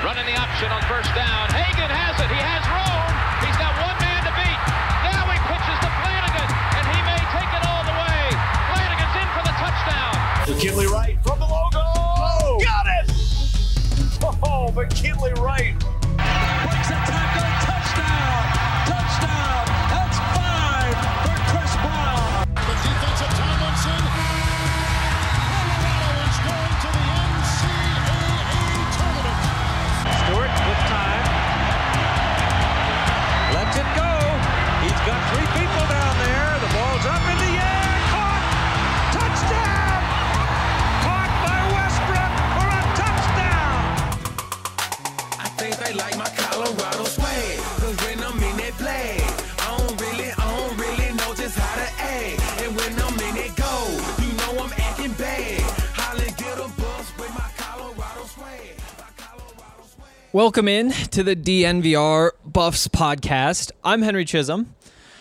Running the option on first down. Hagan has it. He has room. He's got one man to beat. Now he pitches to Flanagan, and he may take it all the way. Flanagan's in for the touchdown. McKinley Wright from the logo. Oh, got it! Oh, McKinley Wright. Breaks a tackle. Touchdown. Touchdown. That's 5 for Chris Brown. The defensive Tomlinson. Colorado is going to the NCAA tournament. Stewart with time. Lets it go. He's got 3 people down there. The ball's up in the air. Caught. Touchdown. Caught by Westbrook for a touchdown. I think they like my Colorado swag. Cause when I'm in that play, I don't really know just how to act. And when I'm in it go, you know I'm acting bad. Holland get a bus with my Colorado swag. Welcome in to the DNVR Buffs podcast. I'm Henry Chisholm.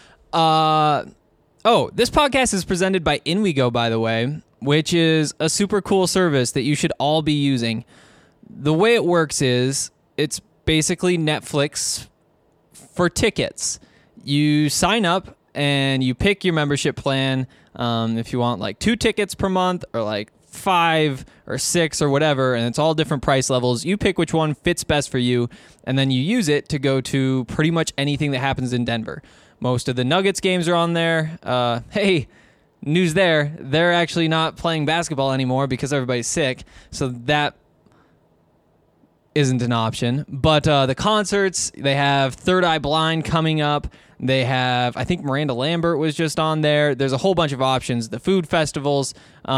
This podcast is presented by InWeGo, by the way, which is a super cool service that you should all be using. The way it works is it's basically Netflix for tickets. You sign up and you pick your membership plan. If you want like 2 tickets per month or like 5 or 6 or whatever, and it's all different price levels. You pick which one fits best for you, and then you use it to go to pretty much anything that happens in Denver. Most of the Nuggets games are on there. Hey, news there. They're actually not playing basketball anymore because everybody's sick, so that isn't an option. But the concerts, they have Third Eye Blind coming up. They have, I think Miranda Lambert was just on there. There's a whole bunch of options. The food festivals,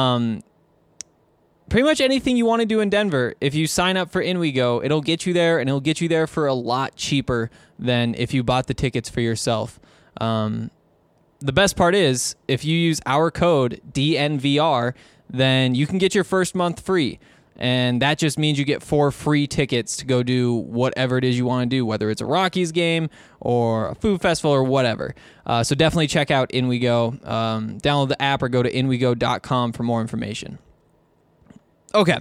pretty much anything you want to do in Denver. If you sign up for InWeGo, it'll get you there, and it'll get you there for a lot cheaper than if you bought the tickets for yourself. The best part is, if you use our code DNVR, then you can get your first month free. And that just means you get 4 free tickets to go do whatever it is you want to do, whether it's a Rockies game or a food festival or whatever. So definitely check out InWeGo. Download the app or go to inwego.com for more information. Okay.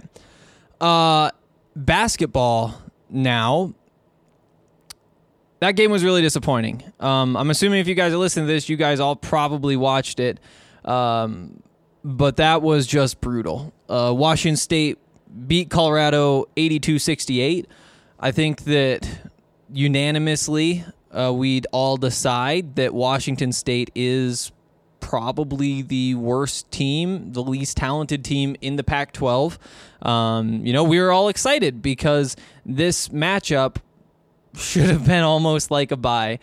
Basketball now. That game was really disappointing. I'm assuming if you guys are listening to this, you guys all probably watched it. But that was just brutal. Washington State beat Colorado 82-68. I think that unanimously we'd all decide that Washington State is probably the worst team, the least talented team in the Pac-12. We were all excited because this matchup should have been almost like a bye.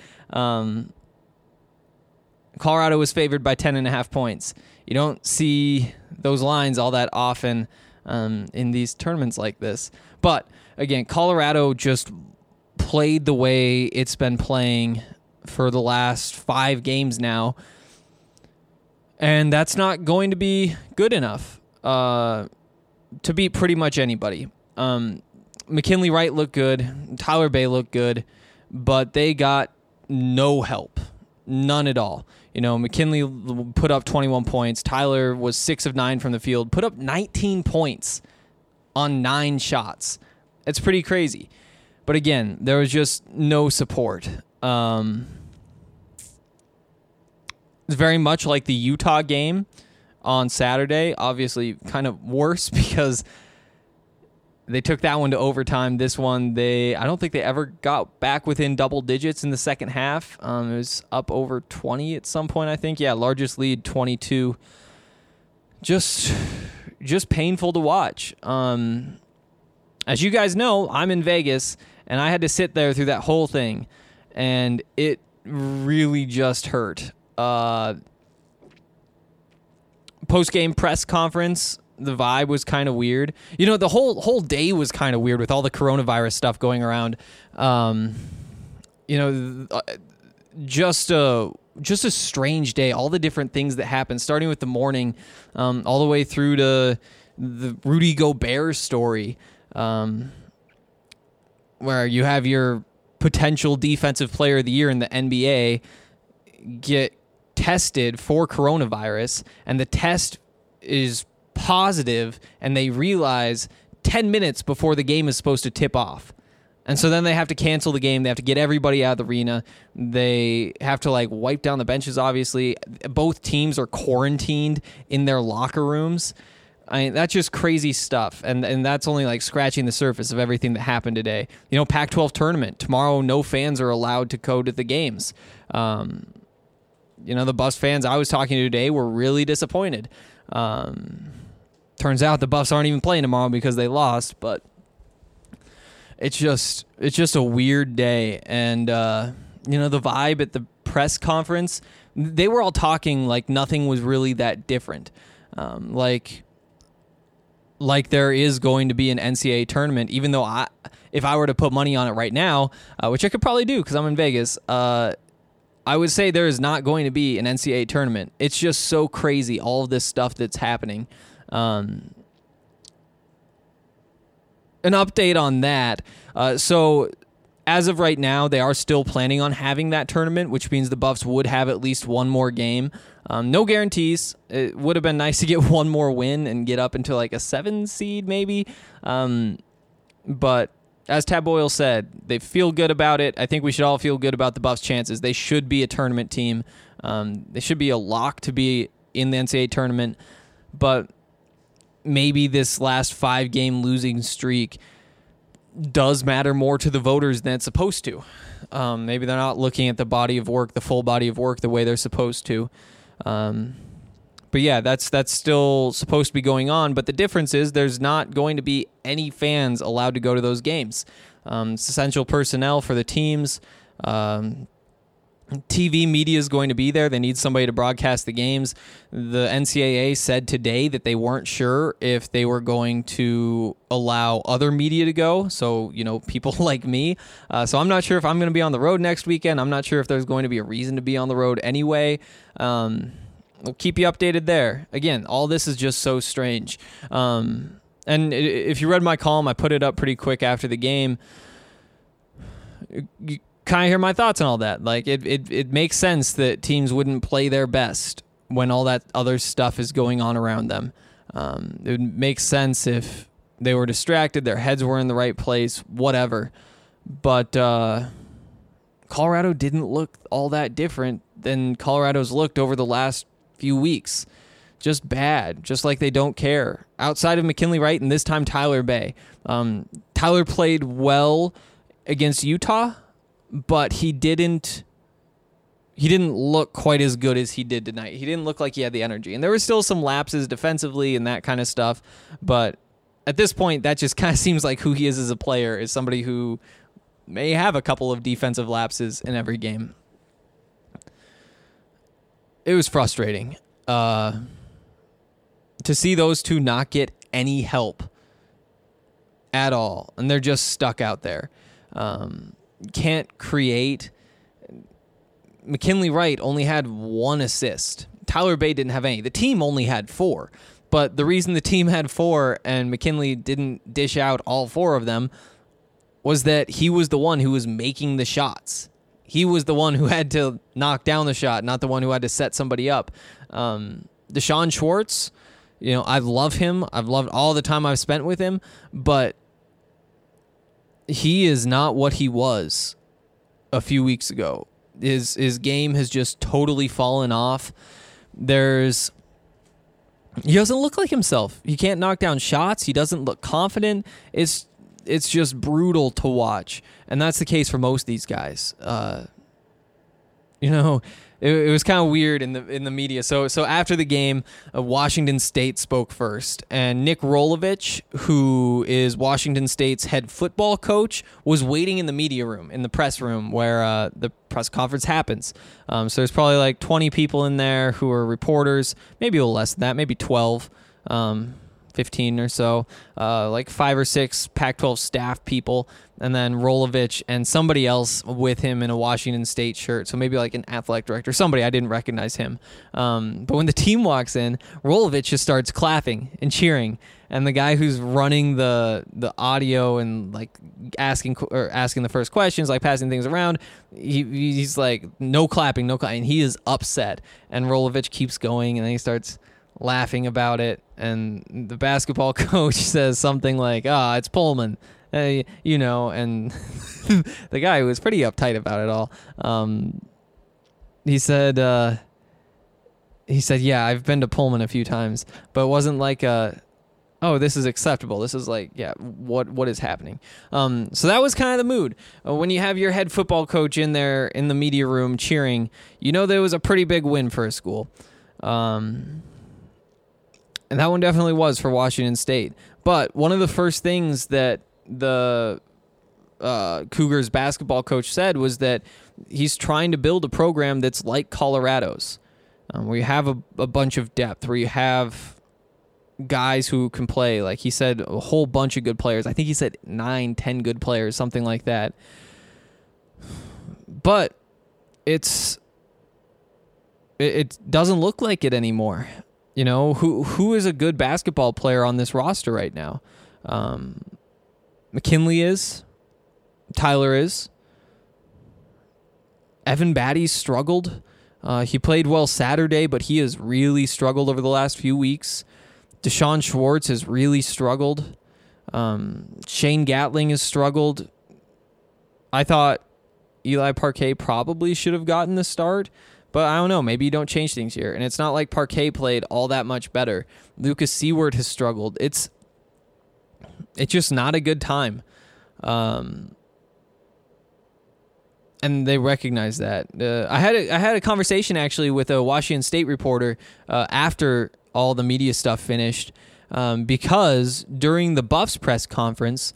Colorado was favored by 10.5 points. You don't see those lines all that often in these tournaments like this. But again, Colorado just played the way it's been playing for the last 5 games now. And that's not going to be good enough to beat pretty much anybody. McKinley Wright looked good. Tyler Bay looked good. But they got no help. None at all. McKinley put up 21 points. Tyler was 6 of 9 from the field. Put up 19 points on 9 shots. It's pretty crazy. But again, there was just no support. It's very much like the Utah game on Saturday. Obviously, kind of worse because they took that one to overtime. This one, I don't think they ever got back within double digits in the second half. It was up over 20 at some point, I think. Yeah, largest lead, 22. Just painful to watch. As you guys know, I'm in Vegas, and I had to sit there through that whole thing, and it really just hurt. Post-game press conference, the vibe was kind of weird. The whole day was kind of weird with all the coronavirus stuff going around. Just a strange day. All the different things that happened, starting with the morning, all the way through to the Rudy Gobert story, where you have your potential defensive player of the year in the NBA get tested for coronavirus, and the test is positive, and they realize 10 minutes before the game is supposed to tip off. And so then they have to cancel the game. They have to get everybody out of the arena. They have to like wipe down the benches, obviously. Both teams are quarantined in their locker rooms. I mean, that's just crazy stuff. And that's only like scratching the surface of everything that happened today. You know, Pac-12 tournament. Tomorrow, no fans are allowed to go to the games. You know, the Buffs fans I was talking to today were really disappointed. Turns out the Buffs aren't even playing tomorrow because they lost, but it's just a weird day. And you know, the vibe at the press conference, they were all talking like nothing was really that different. Like there is going to be an NCAA tournament, even though if I were to put money on it right now, which I could probably do because I'm in Vegas, I would say there is not going to be an NCAA tournament. It's just so crazy, all of this stuff that's happening. An update on that. So as of right now, they are still planning on having that tournament, which means the Buffs would have at least one more game. No guarantees. It would have been nice to get one more win and get up into like a 7 seed maybe. But as Tab Boyle said, they feel good about it. I think we should all feel good about the Buffs' chances. They should be a tournament team. They should be a lock to be in the NCAA tournament. But maybe this last 5-game losing streak does matter more to the voters than it's supposed to. Maybe they're not looking at the body of work, the full body of work, the way they're supposed to. But yeah, that's still supposed to be going on. But the difference is there's not going to be any fans allowed to go to those games. It's essential personnel for the teams. TV media is going to be there. They need somebody to broadcast the games. The NCAA said today that they weren't sure if they were going to allow other media to go. So, you know, people like me. So I'm not sure if I'm going to be on the road next weekend. I'm not sure if there's going to be a reason to be on the road anyway. We'll keep you updated there. Again, all this is just so strange. And if you read my column, I put it up pretty quick after the game. You kind of hear my thoughts on all that. Like it makes sense that teams wouldn't play their best when all that other stuff is going on around them. It would make sense if they were distracted, their heads were in the right place, whatever. But Colorado didn't look all that different than Colorado's looked over the last few weeks. Just bad, just like they don't care. Outside of McKinley Wright and this time Tyler Bay. Tyler played well against Utah, but he didn't look quite as good as he did tonight. He didn't look like he had the energy. And there were still some lapses defensively and that kind of stuff. But at this point, that just kind of seems like who he is as a player, is somebody who may have a couple of defensive lapses in every game. It was frustrating to see those two not get any help at all. And they're just stuck out there. Can't create. McKinley Wright only had 1 assist. Tyler Bay didn't have any. The team only had 4. But the reason the team had 4 and McKinley didn't dish out all 4 of them was that he was the one who was making the shots. He was the one who had to knock down the shot, not the one who had to set somebody up. Deshaun Schwartz, you know, I love him. I've loved all the time I've spent with him, but he is not what he was a few weeks ago. His game has just totally fallen off. He doesn't look like himself. He can't knock down shots. He doesn't look confident. It's just brutal to watch, and that's the case for most of these guys. You know, it was kind of weird in the media. So after the game, Washington State spoke first, and Nick Rolovich, who is Washington State's head football coach, was waiting in the media room, in the press room where the press conference happens. So there's probably like 20 people in there who are reporters, maybe a little less than that, maybe 12. 15 or so, like 5 or 6 Pac-12 staff people, and then Rolovich and somebody else with him in a Washington State shirt, so maybe like an athletic director, somebody. I didn't recognize him. But when the team walks in, Rolovich just starts clapping and cheering, and the guy who's running the audio and like asking the first questions, like passing things around, he's like, no clapping, and he is upset, and Rolovich keeps going, and then he starts laughing about it, and the basketball coach says something like, it's Pullman, you know, and the guy was pretty uptight about it all. He said, yeah, I've been to Pullman a few times, but it wasn't like oh, this is acceptable. This is like, yeah, what is happening? So that was kind of the mood. When you have your head football coach in there in the media room cheering, you know there was a pretty big win for a school. And that one definitely was for Washington State. But one of the first things that the Cougars basketball coach said was that he's trying to build a program that's like Colorado's, where you have a bunch of depth, where you have guys who can play. Like he said, a whole bunch of good players. I think he said 9-10 good players, something like that. But it doesn't look like it anymore. You know, who is a good basketball player on this roster right now? McKinley is. Tyler is. Evan Batty's struggled. He played well Saturday, but he has really struggled over the last few weeks. Deshaun Schwartz has really struggled. Shane Gatling has struggled. I thought Eli Parquet probably should have gotten the start, but I don't know. Maybe you don't change things here. And it's not like Parquet played all that much better. Lucas Seward has struggled. It's just not a good time. And they recognize that. I had a conversation actually with a Washington State reporter after all the media stuff finished, because during the Buffs press conference,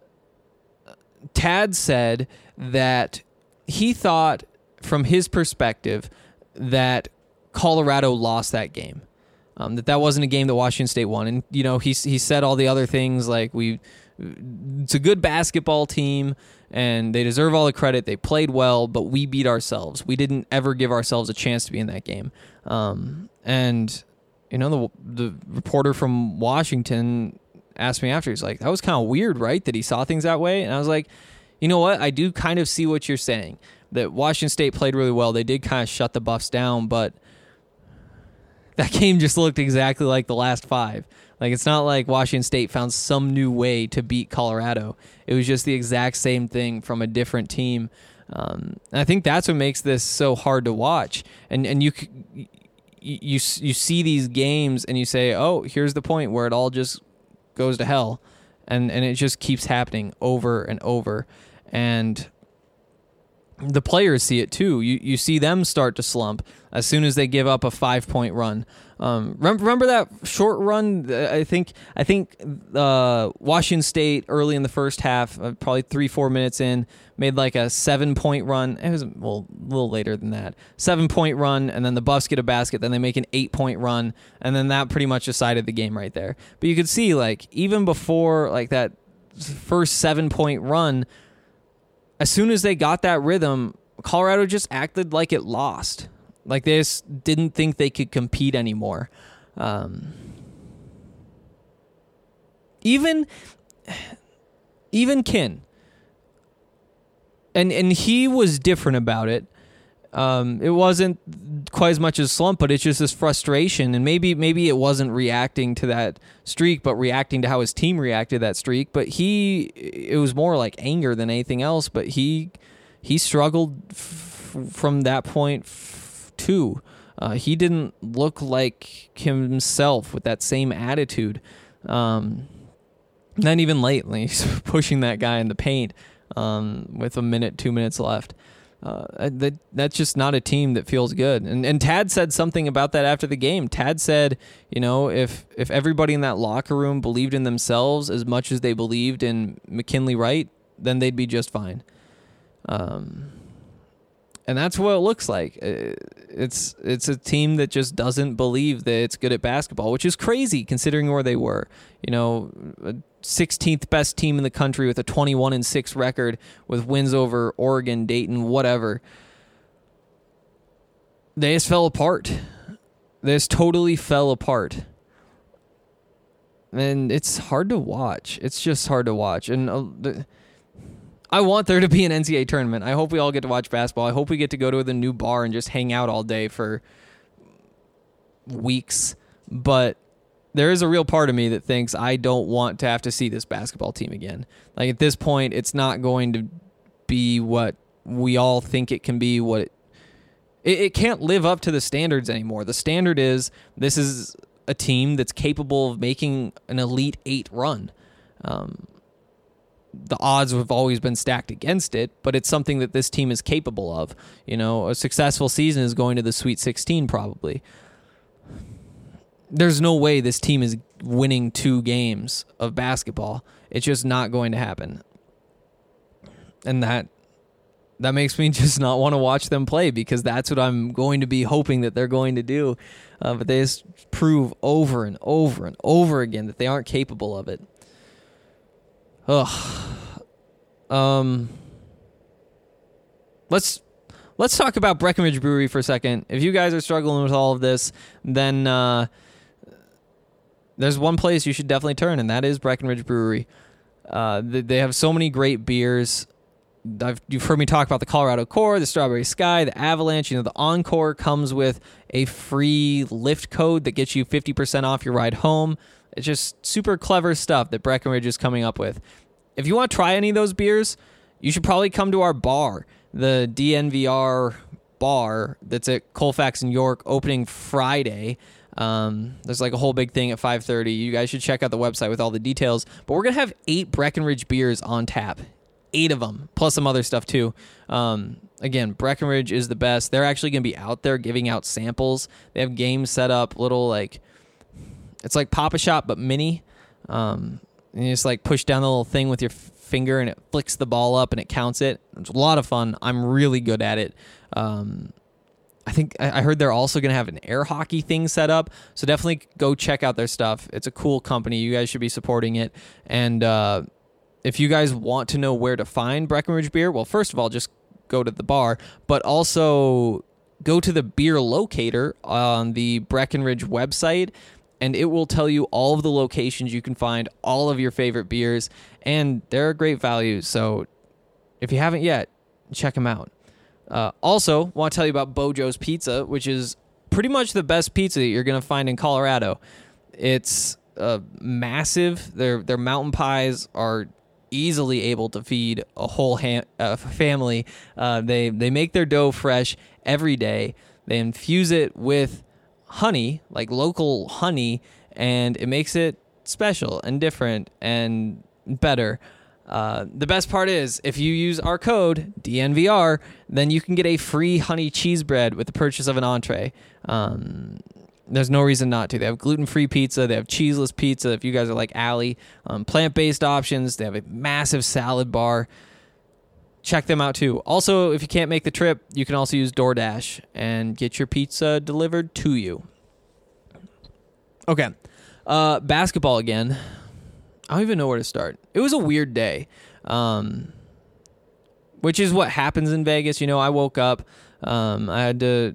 Tad said that he thought, from his perspective, that Colorado lost that game. That wasn't a game that Washington State won. And, you know, he said all the other things like it's a good basketball team and they deserve all the credit. They played well, but we beat ourselves. We didn't ever give ourselves a chance to be in that game. And, you know, the reporter from Washington asked me after, he's like, that was kind of weird, right? That he saw things that way. And I was like, you know what? I do kind of see what you're saying, that Washington State played really well. They did kind of shut the Buffs down, but that game just looked exactly like the last 5. Like, it's not like Washington State found some new way to beat Colorado. It was just the exact same thing from a different team. And I think that's what makes this so hard to watch. And you see these games and you say, oh, here's the point where it all just goes to hell. And it just keeps happening over and over. And the players see it too. You see them start to slump as soon as they give up a 5-point run. Remember that short run? I think Washington State early in the first half, probably 3-4 minutes in, made like a 7-point run. It was a little later than that. 7-point run, and then the Buffs get a basket. Then they make an 8-point run, and then that pretty much decided the game right there. But you could see, like, even before like that first 7-point run, as soon as they got that rhythm, Colorado just acted like it lost. Like they just didn't think they could compete anymore. Even Kin. And he was different about it. It wasn't quite as much as slump, but it's just this frustration. And maybe it wasn't reacting to that streak, but reacting to how his team reacted to that streak. But it was more like anger than anything else. But he struggled from that point too. He didn't look like himself with that same attitude. Not even lately, he's pushing that guy in the paint with 2 minutes left. That's just not a team that feels good. And Tad said something about that after the game. Tad said, you know, if everybody in that locker room believed in themselves as much as they believed in McKinley Wright, then they'd be just fine. And that's what it looks like. It's a team that just doesn't believe that it's good at basketball, which is crazy considering where they were. You know, 16th best team in the country with a 21-6 record with wins over Oregon, Dayton, whatever. They just fell apart. They just totally fell apart. And it's hard to watch. It's just hard to watch. And I want there to be an NCAA tournament. I hope we all get to watch basketball. I hope we get to go to the new bar and just hang out all day for weeks. But there is a real part of me that thinks I don't want to have to see this basketball team again. Like at this point, it's not going to be what we all think it can be. It can't live up to the standards anymore. The standard is this is a team that's capable of making an Elite Eight run. The odds have always been stacked against it, but it's something that this team is capable of. A successful season is going to the Sweet 16 probably. There's no way this team is winning 2 games of basketball. It's just not going to happen. And that makes me just not want to watch them play, because that's what I'm going to be hoping that they're going to do. But they just prove over and over and over again that they aren't capable of it. Let's talk about Breckenridge Brewery for a second. If you guys are struggling with all of this, then there's one place you should definitely turn, and that is Breckenridge Brewery. They have so many great beers. You've heard me talk about the Colorado Core, the Strawberry Sky, the Avalanche. The Encore comes with a free Lyft code that gets you 50% off your ride home. It's just super clever stuff that Breckenridge is coming up with. If you want to try any of those beers, you should probably come to our bar, the DNVR bar that's at Colfax in York, opening Friday. There's like a whole big thing at 5:30. You guys should check out the website with all the details. But we're going to have 8 Breckenridge beers on tap. 8 of them, plus some other stuff too. Again, Breckenridge is the best. They're actually going to be out there giving out samples. They have games set up, it's like Pop-A-Shop, but mini. And you just push down the little thing with your finger, and it flicks the ball up, and it counts it. It's a lot of fun. I'm really good at it. I think I heard they're also going to have an air hockey thing set up. So definitely go check out their stuff. It's a cool company. You guys should be supporting it. And if you guys want to know where to find Breckenridge beer, well, first of all, just go to the bar, but also go to the beer locator on the Breckenridge website, and it will tell you all of the locations you can find all of your favorite beers, and they're a great value. So if you haven't yet, check them out. Also, want to tell you about Bojo's Pizza, which is pretty much the best pizza that you're going to find in Colorado. It's massive. Their mountain pies are easily able to feed a whole family. They make their dough fresh every day. They infuse it with honey, like local honey, and it makes it special and different and better. The best part is, if you use our code DNVR, then you can get a free honey cheese bread with the purchase of an entree. There's no reason not to. They have gluten-free pizza. They have cheeseless pizza if you guys are like Allie. Plant-based options. They have a massive salad bar. Check them out too. Also, if you can't make the trip, you can also use DoorDash and get your pizza delivered to you. Okay. Basketball again. I don't even know where to start. It was a weird day, which is what happens in Vegas. I woke up. I had to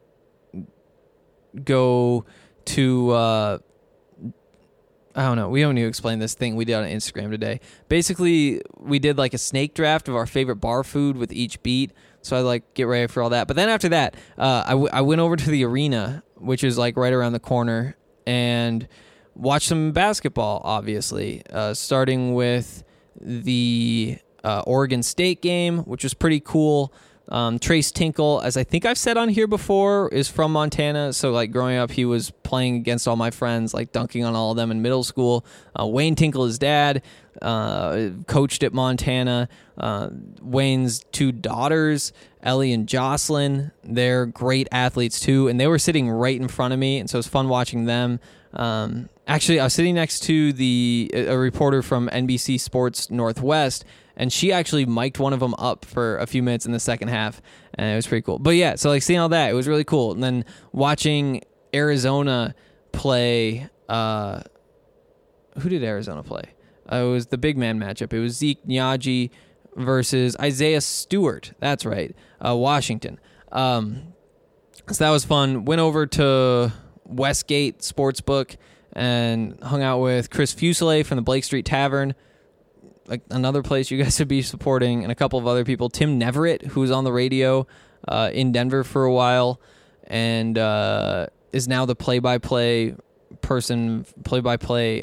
go to, I don't know. We don't need to explain this thing we did on Instagram today. Basically, we did a snake draft of our favorite bar food with each beat. So I get ready for all that. But then after that, I went over to the arena, which is right around the corner, and watch some basketball, obviously, starting with the Oregon State game, which was pretty cool. Trace Tinkle, as I think I've said on here before, is from Montana. So growing up, he was playing against all my friends, dunking on all of them in middle school. Wayne Tinkle, his dad, coached at Montana. Wayne's 2 daughters, Ellie and Jocelyn, they're great athletes too, and they were sitting right in front of me, and so it was fun watching them. Actually, I was sitting next to a reporter from NBC Sports Northwest, and she actually mic'd one of them up for a few minutes in the second half, and it was pretty cool. But yeah, so seeing all that, it was really cool. And then watching Arizona play, who did Arizona play? It was the big man matchup. It was Zeke Nnaji versus Isaiah Stewart. That's right, Washington. So that was fun. Went over to Westgate Sportsbook and hung out with Chris Fuselier from the Blake Street Tavern, another place you guys should be supporting, and a couple of other people. Tim Neverett, who was on the radio in Denver for a while and is now the play-by-play person, play-by-play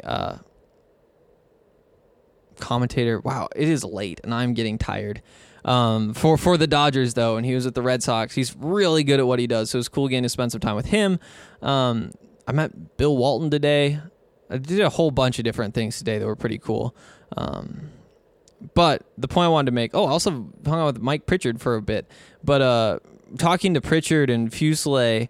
commentator. Wow, it is late, and I'm getting tired. For the Dodgers, though, and he was at the Red Sox. He's really good at what he does, so it was cool getting to spend some time with him. I met Bill Walton today. I did a whole bunch of different things today that were pretty cool. But the point I wanted to make, I also hung out with Mike Pritchard for a bit. But talking to Pritchard and Fuselier,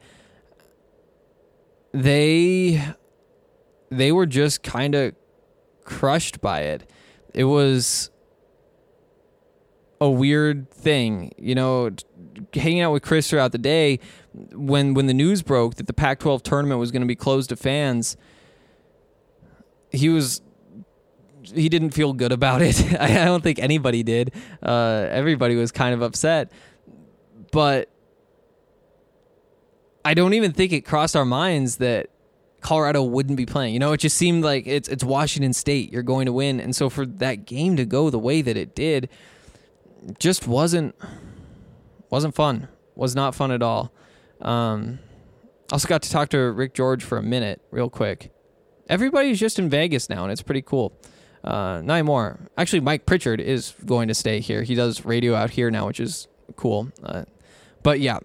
they were just kind of crushed by it. It was a weird thing, hanging out with Chris throughout the day. When the news broke that the Pac-12 tournament was going to be closed to fans, he didn't feel good about it. I don't think anybody did. Everybody was kind of upset. But I don't even think it crossed our minds that Colorado wouldn't be playing. It just seemed like it's Washington State. You're going to win. And so for that game to go the way that it did, just wasn't fun. Was not fun at all. Also got to talk to Rick George for a minute, real quick. Everybody's just in Vegas now, and it's pretty cool. Not anymore. Actually, Mike Pritchard is going to stay here. He does radio out here now, which is cool. But yeah,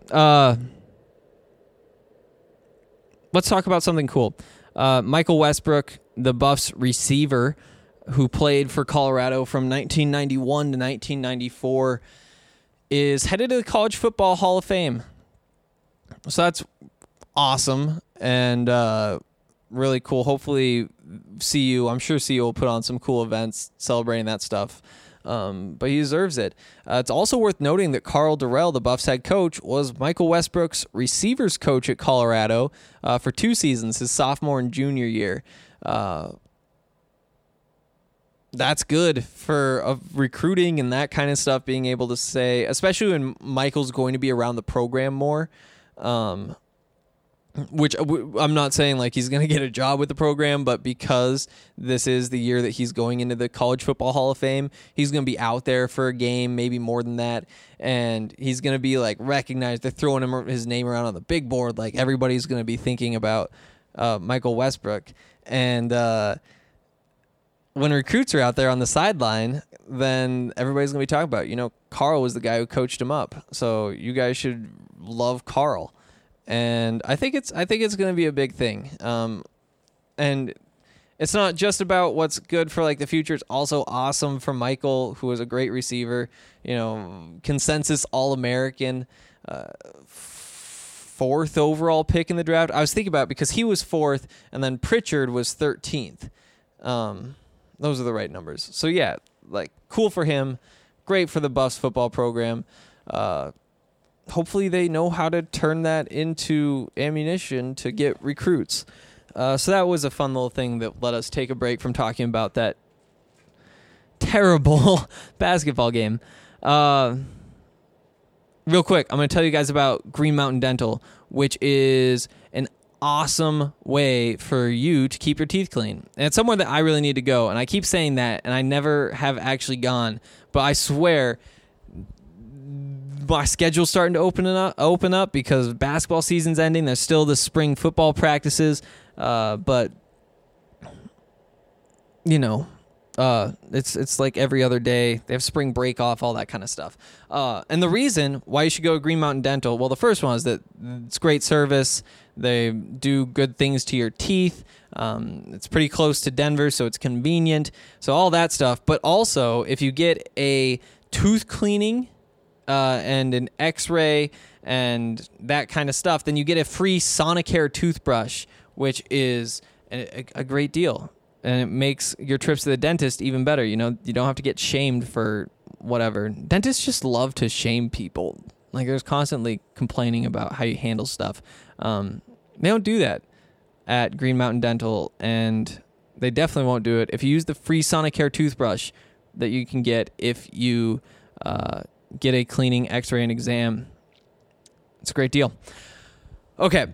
let's talk about something cool. Michael Westbrook, the Buffs receiver, who played for Colorado from 1991 to 1994, is headed to the College Football Hall of Fame. So that's awesome and really cool. Hopefully I'm sure CU will put on some cool events celebrating that stuff. But he deserves it. It's also worth noting that Carl Durrell, the Buffs head coach, was Michael Westbrook's receivers coach at Colorado for 2 seasons, his sophomore and junior year. That's good for recruiting and that kind of stuff, being able to say, especially when Michael's going to be around the program more, which I'm not saying like he's going to get a job with the program, but because this is the year that he's going into the College Football Hall of Fame, he's going to be out there for a game, maybe more than that, and he's going to be like recognized. They're throwing his name around on the big board, like everybody's going to be thinking about Michael Westbrook. And when recruits are out there on the sideline, then everybody's going to be talking about, Carl was the guy who coached him up, so you guys should love Carl. And I think it's going to be a big thing. And it's not just about what's good for like the future. It's also awesome for Michael, who was a great receiver, consensus All-American, 4th overall pick in the draft. I was thinking about it because he was 4th and then Pritchard was 13th. Those are the right numbers. So yeah, like cool for him. Great for the Buffs football program. Hopefully they know how to turn that into ammunition to get recruits. So that was a fun little thing that let us take a break from talking about that terrible basketball game. Real quick, I'm going to tell you guys about Green Mountain Dental, which is an awesome way for you to keep your teeth clean. And it's somewhere that I really need to go. And I keep saying that, and I never have actually gone. But I swear, my schedule's starting to open up because basketball season's ending. There's still the spring football practices, but it's like every other day. They have spring break off, all that kind of stuff. And the reason why you should go to Green Mountain Dental, well, the first one is that it's great service. They do good things to your teeth. It's pretty close to Denver, so it's convenient. So all that stuff. But also, if you get a tooth cleaning and an x-ray and that kind of stuff, then you get a free Sonicare toothbrush, which is a great deal. And it makes your trips to the dentist even better. You don't have to get shamed for whatever. Dentists just love to shame people. Like, there's constantly complaining about how you handle stuff. They don't do that at Green Mountain Dental, and they definitely won't do it if you use the free Sonicare toothbrush that you can get if you get a cleaning, x-ray, and exam. It's a great deal. Okay.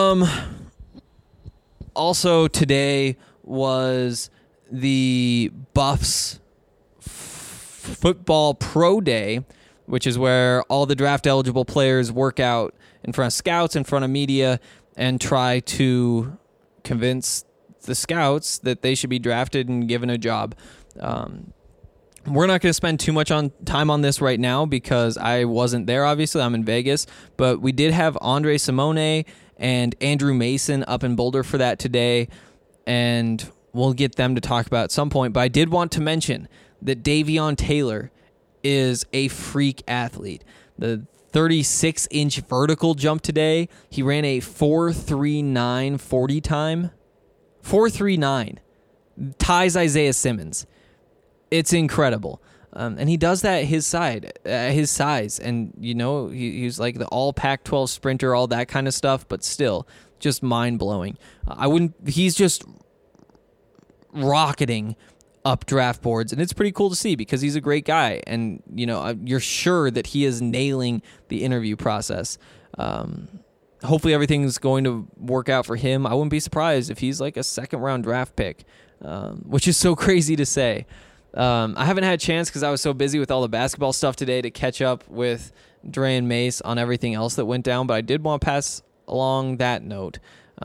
Also today was the Buffs football pro day, which is where all the draft eligible players work out in front of scouts, in front of media, and try to convince the scouts that they should be drafted and given a job. We're not going to spend too much time on this right now because I wasn't there, obviously. I'm in Vegas. But we did have Andre Simone and Andrew Mason up in Boulder for that today, and we'll get them to talk about at some point. But I did want to mention that Davion Taylor is a freak athlete. The 36-inch vertical jump today, he ran a 4.39 40 time. 4.39. Ties Isaiah Simmons. It's incredible. And he does that at his size. And, you know, he's like the all Pac-12 sprinter, all that kind of stuff, but still just mind-blowing. He's just rocketing up draft boards, and it's pretty cool to see because he's a great guy. And, you know, you're sure that he is nailing the interview process. Hopefully everything's going to work out for him. I wouldn't be surprised if he's like a second-round draft pick, which is so crazy to say. I haven't had a chance because I was so busy with all the basketball stuff today to catch up with Dre and Mace on everything else that went down, but I did want to pass along that note.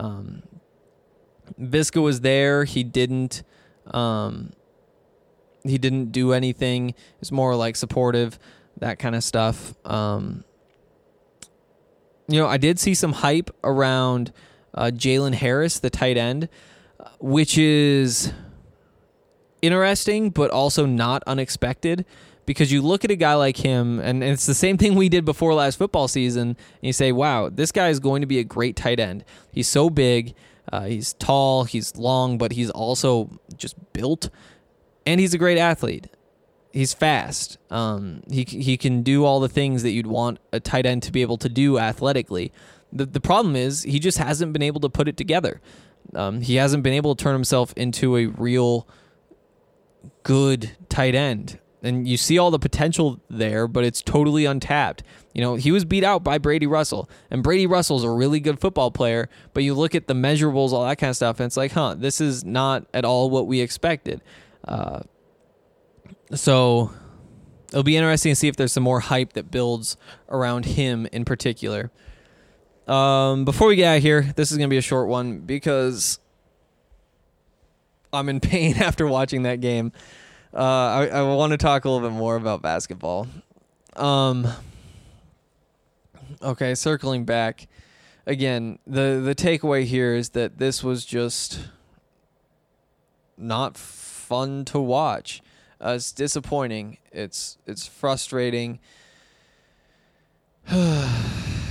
Visca was there. He didn't do anything. It's more like supportive, that kind of stuff. You know, I did see some hype around Jalen Harris, the tight end, which is interesting, but also not unexpected, because you look at a guy like him, and it's the same thing we did before last football season, and you say, wow, this guy is going to be a great tight end. He's so big, he's tall, he's long, but he's also just built, and he's a great athlete. He's fast. He can do all the things that you'd want a tight end to be able to do athletically. The problem is he just hasn't been able to put it together. He hasn't been able to turn himself into a real good tight end. And you see all the potential there, but it's totally untapped. You know, he was beat out by Brady Russell, and Brady Russell's a really good football player, but you look at the measurables, all that kind of stuff, and it's like, this is not at all what we expected. So it'll be interesting to see if there's some more hype that builds around him in particular. Before we get out of here, this is going to be a short one because I'm in pain after watching that game. I want to talk a little bit more about basketball. Okay, circling back. Again, the takeaway here is that this was just not fun to watch. It's disappointing. It's frustrating. I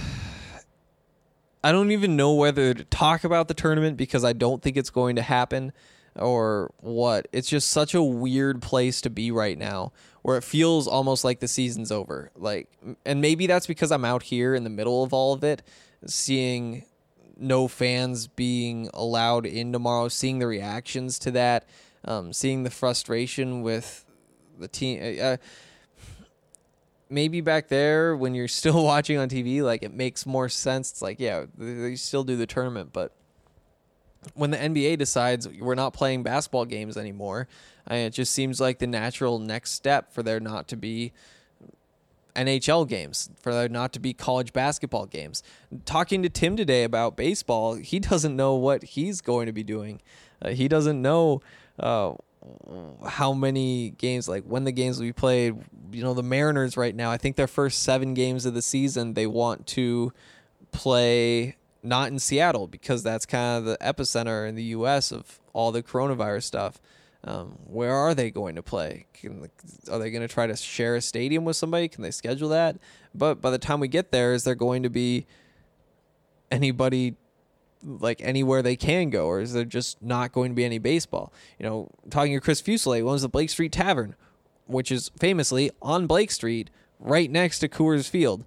don't even know whether to talk about the tournament because I don't think it's going to happen or what. It's just such a weird place to be right now where it feels almost like the season's over. Like, and maybe that's because I'm out here in the middle of all of it, seeing no fans being allowed in tomorrow, seeing the reactions to that, seeing the frustration with the team. Maybe back there when you're still watching on TV, like it makes more sense. It's like, yeah, they still do the tournament, but when the NBA decides we're not playing basketball games anymore, it just seems like the natural next step for there not to be NHL games, for there not to be college basketball games. Talking to Tim today about baseball, he doesn't know what he's going to be doing. He doesn't know how many games, like when the games will be played. You know, the Mariners right now, I think their first 7 games of the season, they want to play not in Seattle because that's kind of the epicenter in the U.S. of all the coronavirus stuff. Where are they going to play? Are they going to try to share a stadium with somebody? Can they schedule that? But by the time we get there, is there going to be anybody like anywhere they can go, or is there just not going to be any baseball? You know, talking to Chris Fuselier, owns the Blake Street Tavern, which is famously on Blake Street, right next to Coors Field.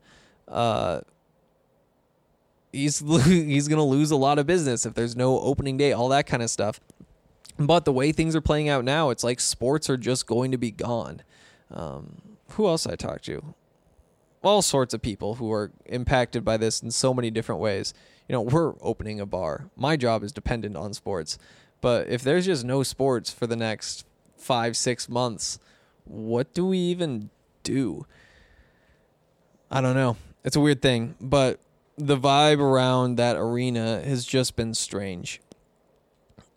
He's going to lose a lot of business if there's no opening day, all that kind of stuff. But the way things are playing out now, it's like sports are just going to be gone. Who else I talked to? All sorts of people who are impacted by this in so many different ways. You know, we're opening a bar. My job is dependent on sports. But if there's just no sports for the next 5-6 months, what do we even do? I don't know. It's a weird thing, but the vibe around that arena has just been strange.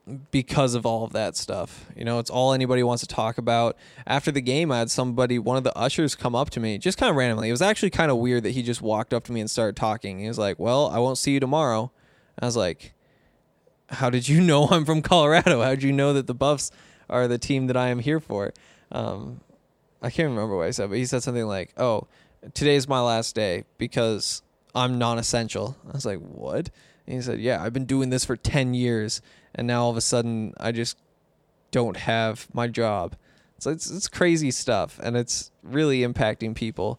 because of all of that stuff. You know, it's all anybody wants to talk about. After the game, I had one of the ushers come up to me just kind of randomly. It was actually kind of weird that he just walked up to me and started talking. He was like, "Well, I won't see you tomorrow." I was like, "How did you know I'm from Colorado? How did you know that the Buffs are the team that I am here for?" I can't remember what I said, but he said something like, "Oh, today's my last day because I'm non-essential." I was like, "What?" And he said, "Yeah, I've been doing this for 10 years, and now all of a sudden I just don't have my job." So it's crazy stuff, and it's really impacting people.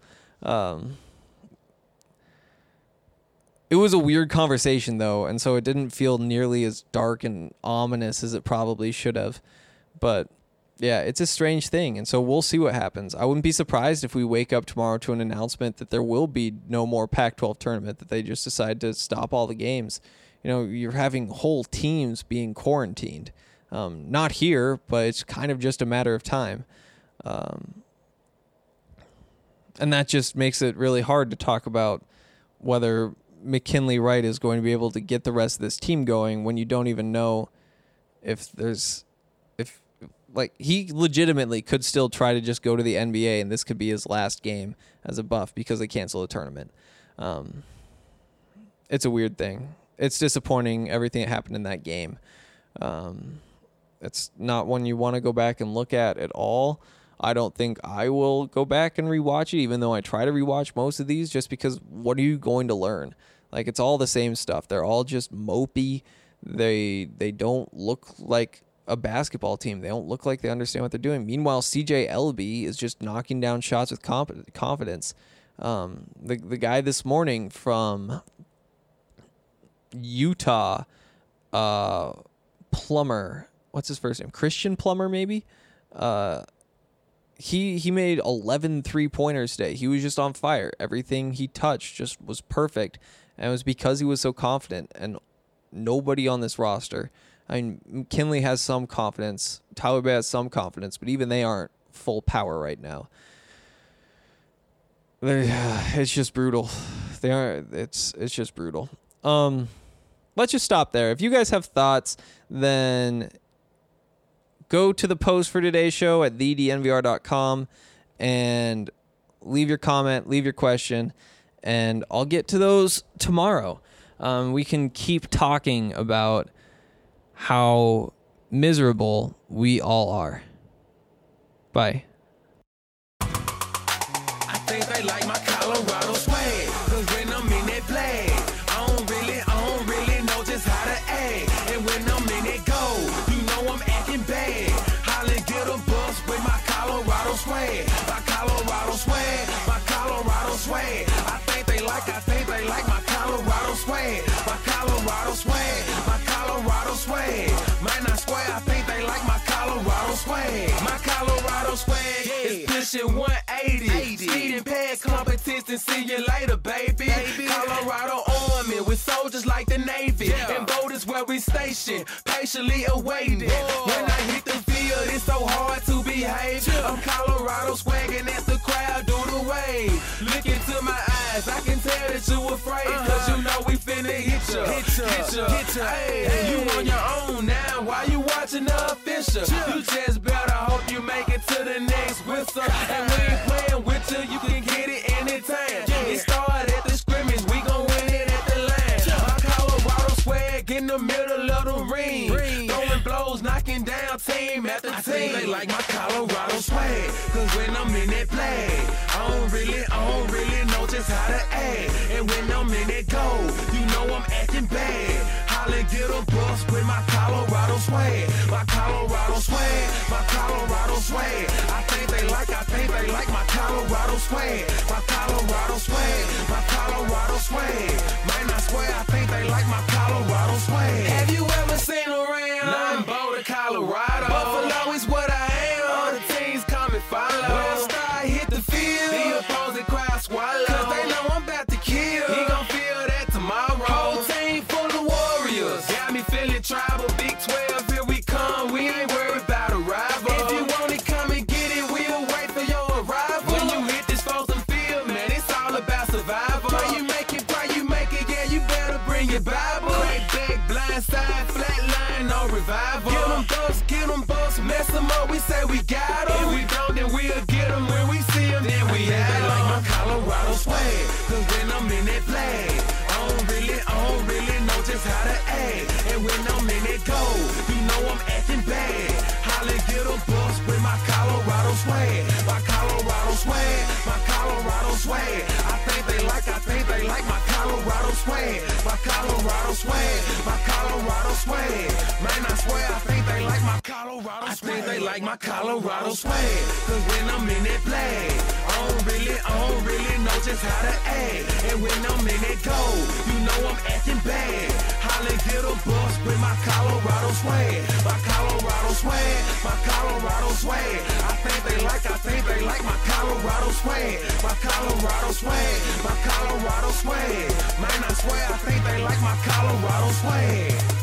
It was a weird conversation, though, and so it didn't feel nearly as dark and ominous as it probably should have. But yeah, it's a strange thing, and so we'll see what happens. I wouldn't be surprised if we wake up tomorrow to an announcement that there will be no more Pac-12 tournament, that they just decide to stop all the games. You know, you're having whole teams being quarantined. Not here, but it's kind of just a matter of time. And that just makes it really hard to talk about whether McKinley Wright is going to be able to get the rest of this team going when you don't even know if he legitimately could still try to just go to the NBA, and this could be his last game as a Buff because they cancel the tournament. It's a weird thing. It's disappointing, everything that happened in that game. It's not one you want to go back and look at all. I don't think I will go back and rewatch it, even though I try to rewatch most of these, just because what are you going to learn? Like, it's all the same stuff. They're all just mopey. They don't look like a basketball team. They don't look like they understand what they're doing. Meanwhile, CJ Elleby is just knocking down shots with confidence. The guy this morning from Utah, Plummer, what's his first name? Christian Plummer, maybe? He made 11 3-pointers today. He was just on fire. Everything he touched just was perfect. And it was because he was so confident. And nobody on this roster, I mean, McKinley has some confidence. Tyler Bay has some confidence, but even they aren't full power right now. It's just brutal. It's just brutal. Let's just stop there. If you guys have thoughts, then go to the post for today's show at thednvr.com and leave your comment, leave your question, and I'll get to those tomorrow. We can keep talking about how miserable we all are. Bye. I think they like my Colorado swag, 'cause when I'm in that flag, I don't really know just how to act. And when I'm in that goal, you know I'm acting bad. Holla, get a bus with my Colorado swag. My Colorado swag, my Colorado swag. I think they like my Colorado swag. My Colorado swag, my Colorado swag. Man, I swear, I think they like my Colorado swag. My Colorado swag is pushing 180. Speeding past competition, see you later, baby. Colorado Army with soldiers like the Navy. And boat is where we station, patiently awaiting. When I hit the field, it's so hard to behave. I'm Colorado swagging as the crowd do the wave. Look into my eyes, I can tell that you afraid. 'Cause you know we finna hit ya. Hey, you on your own now, why you watching the official? You just better hope you make it to the next whistle. And we ain't playing with you, you can get it anytime. It started at the scrimmage, we gon' win it at the line. My Colorado swag in the middle of the ring. Throwing blows, knocking down team after team. I think they like my Colorado swag, 'cause when I'm in that flag, I don't really know just how to act. And when I'm in that goal, you know I'm acting bad. Holla, get a bus with my Colorado swag. My Colorado swag, my Colorado swag. I think they like my Colorado swag. My Colorado swag, my Colorado swag. Man, I swear, I think they like my Colorado swag. Have you ever seen around? I'm Boulder, Colorado. Buffalo is what I am. All the teams come and follow. When I start hit the field, the opposing crowd swallow. 'Cause they know I'm about to kill. He gon' feel that tomorrow. Whole team full of warriors. Got me feeling tribal. Big 12, here we come. We ain't worried about a rival. If you want it, come and get it. We'll wait for your arrival. When you hit this frozen field, man, it's all about survival. Pray you make it, yeah, you better bring your Bible. Crack back, blind side, flat line, no revival. Get them dust, mess them up, we say we got them. If we don't, then we'll get them when we see them, then we have them. They like my Colorado swag, cause when I'm in that flag, I don't really know just how to act. And when I'm in that gold, you know I'm acting bad. Holly get a bus with my Colorado swag. My Colorado swag, my Colorado swag. I think they like my Colorado swag. My Colorado swag, my Colorado swag. Man, I swear I think they like my Colorado swag. I think they like my Colorado swag. Cause when I'm in that flag, I don't really know just how to act. And when I'm in that gold, you know I'm acting bad. Holly get a bus with my Colorado swag. My Colorado swag, my Colorado swag. I think they like my Colorado swag. My Colorado swag, my Colorado swag. Man, I swear I think they like my Colorado swag.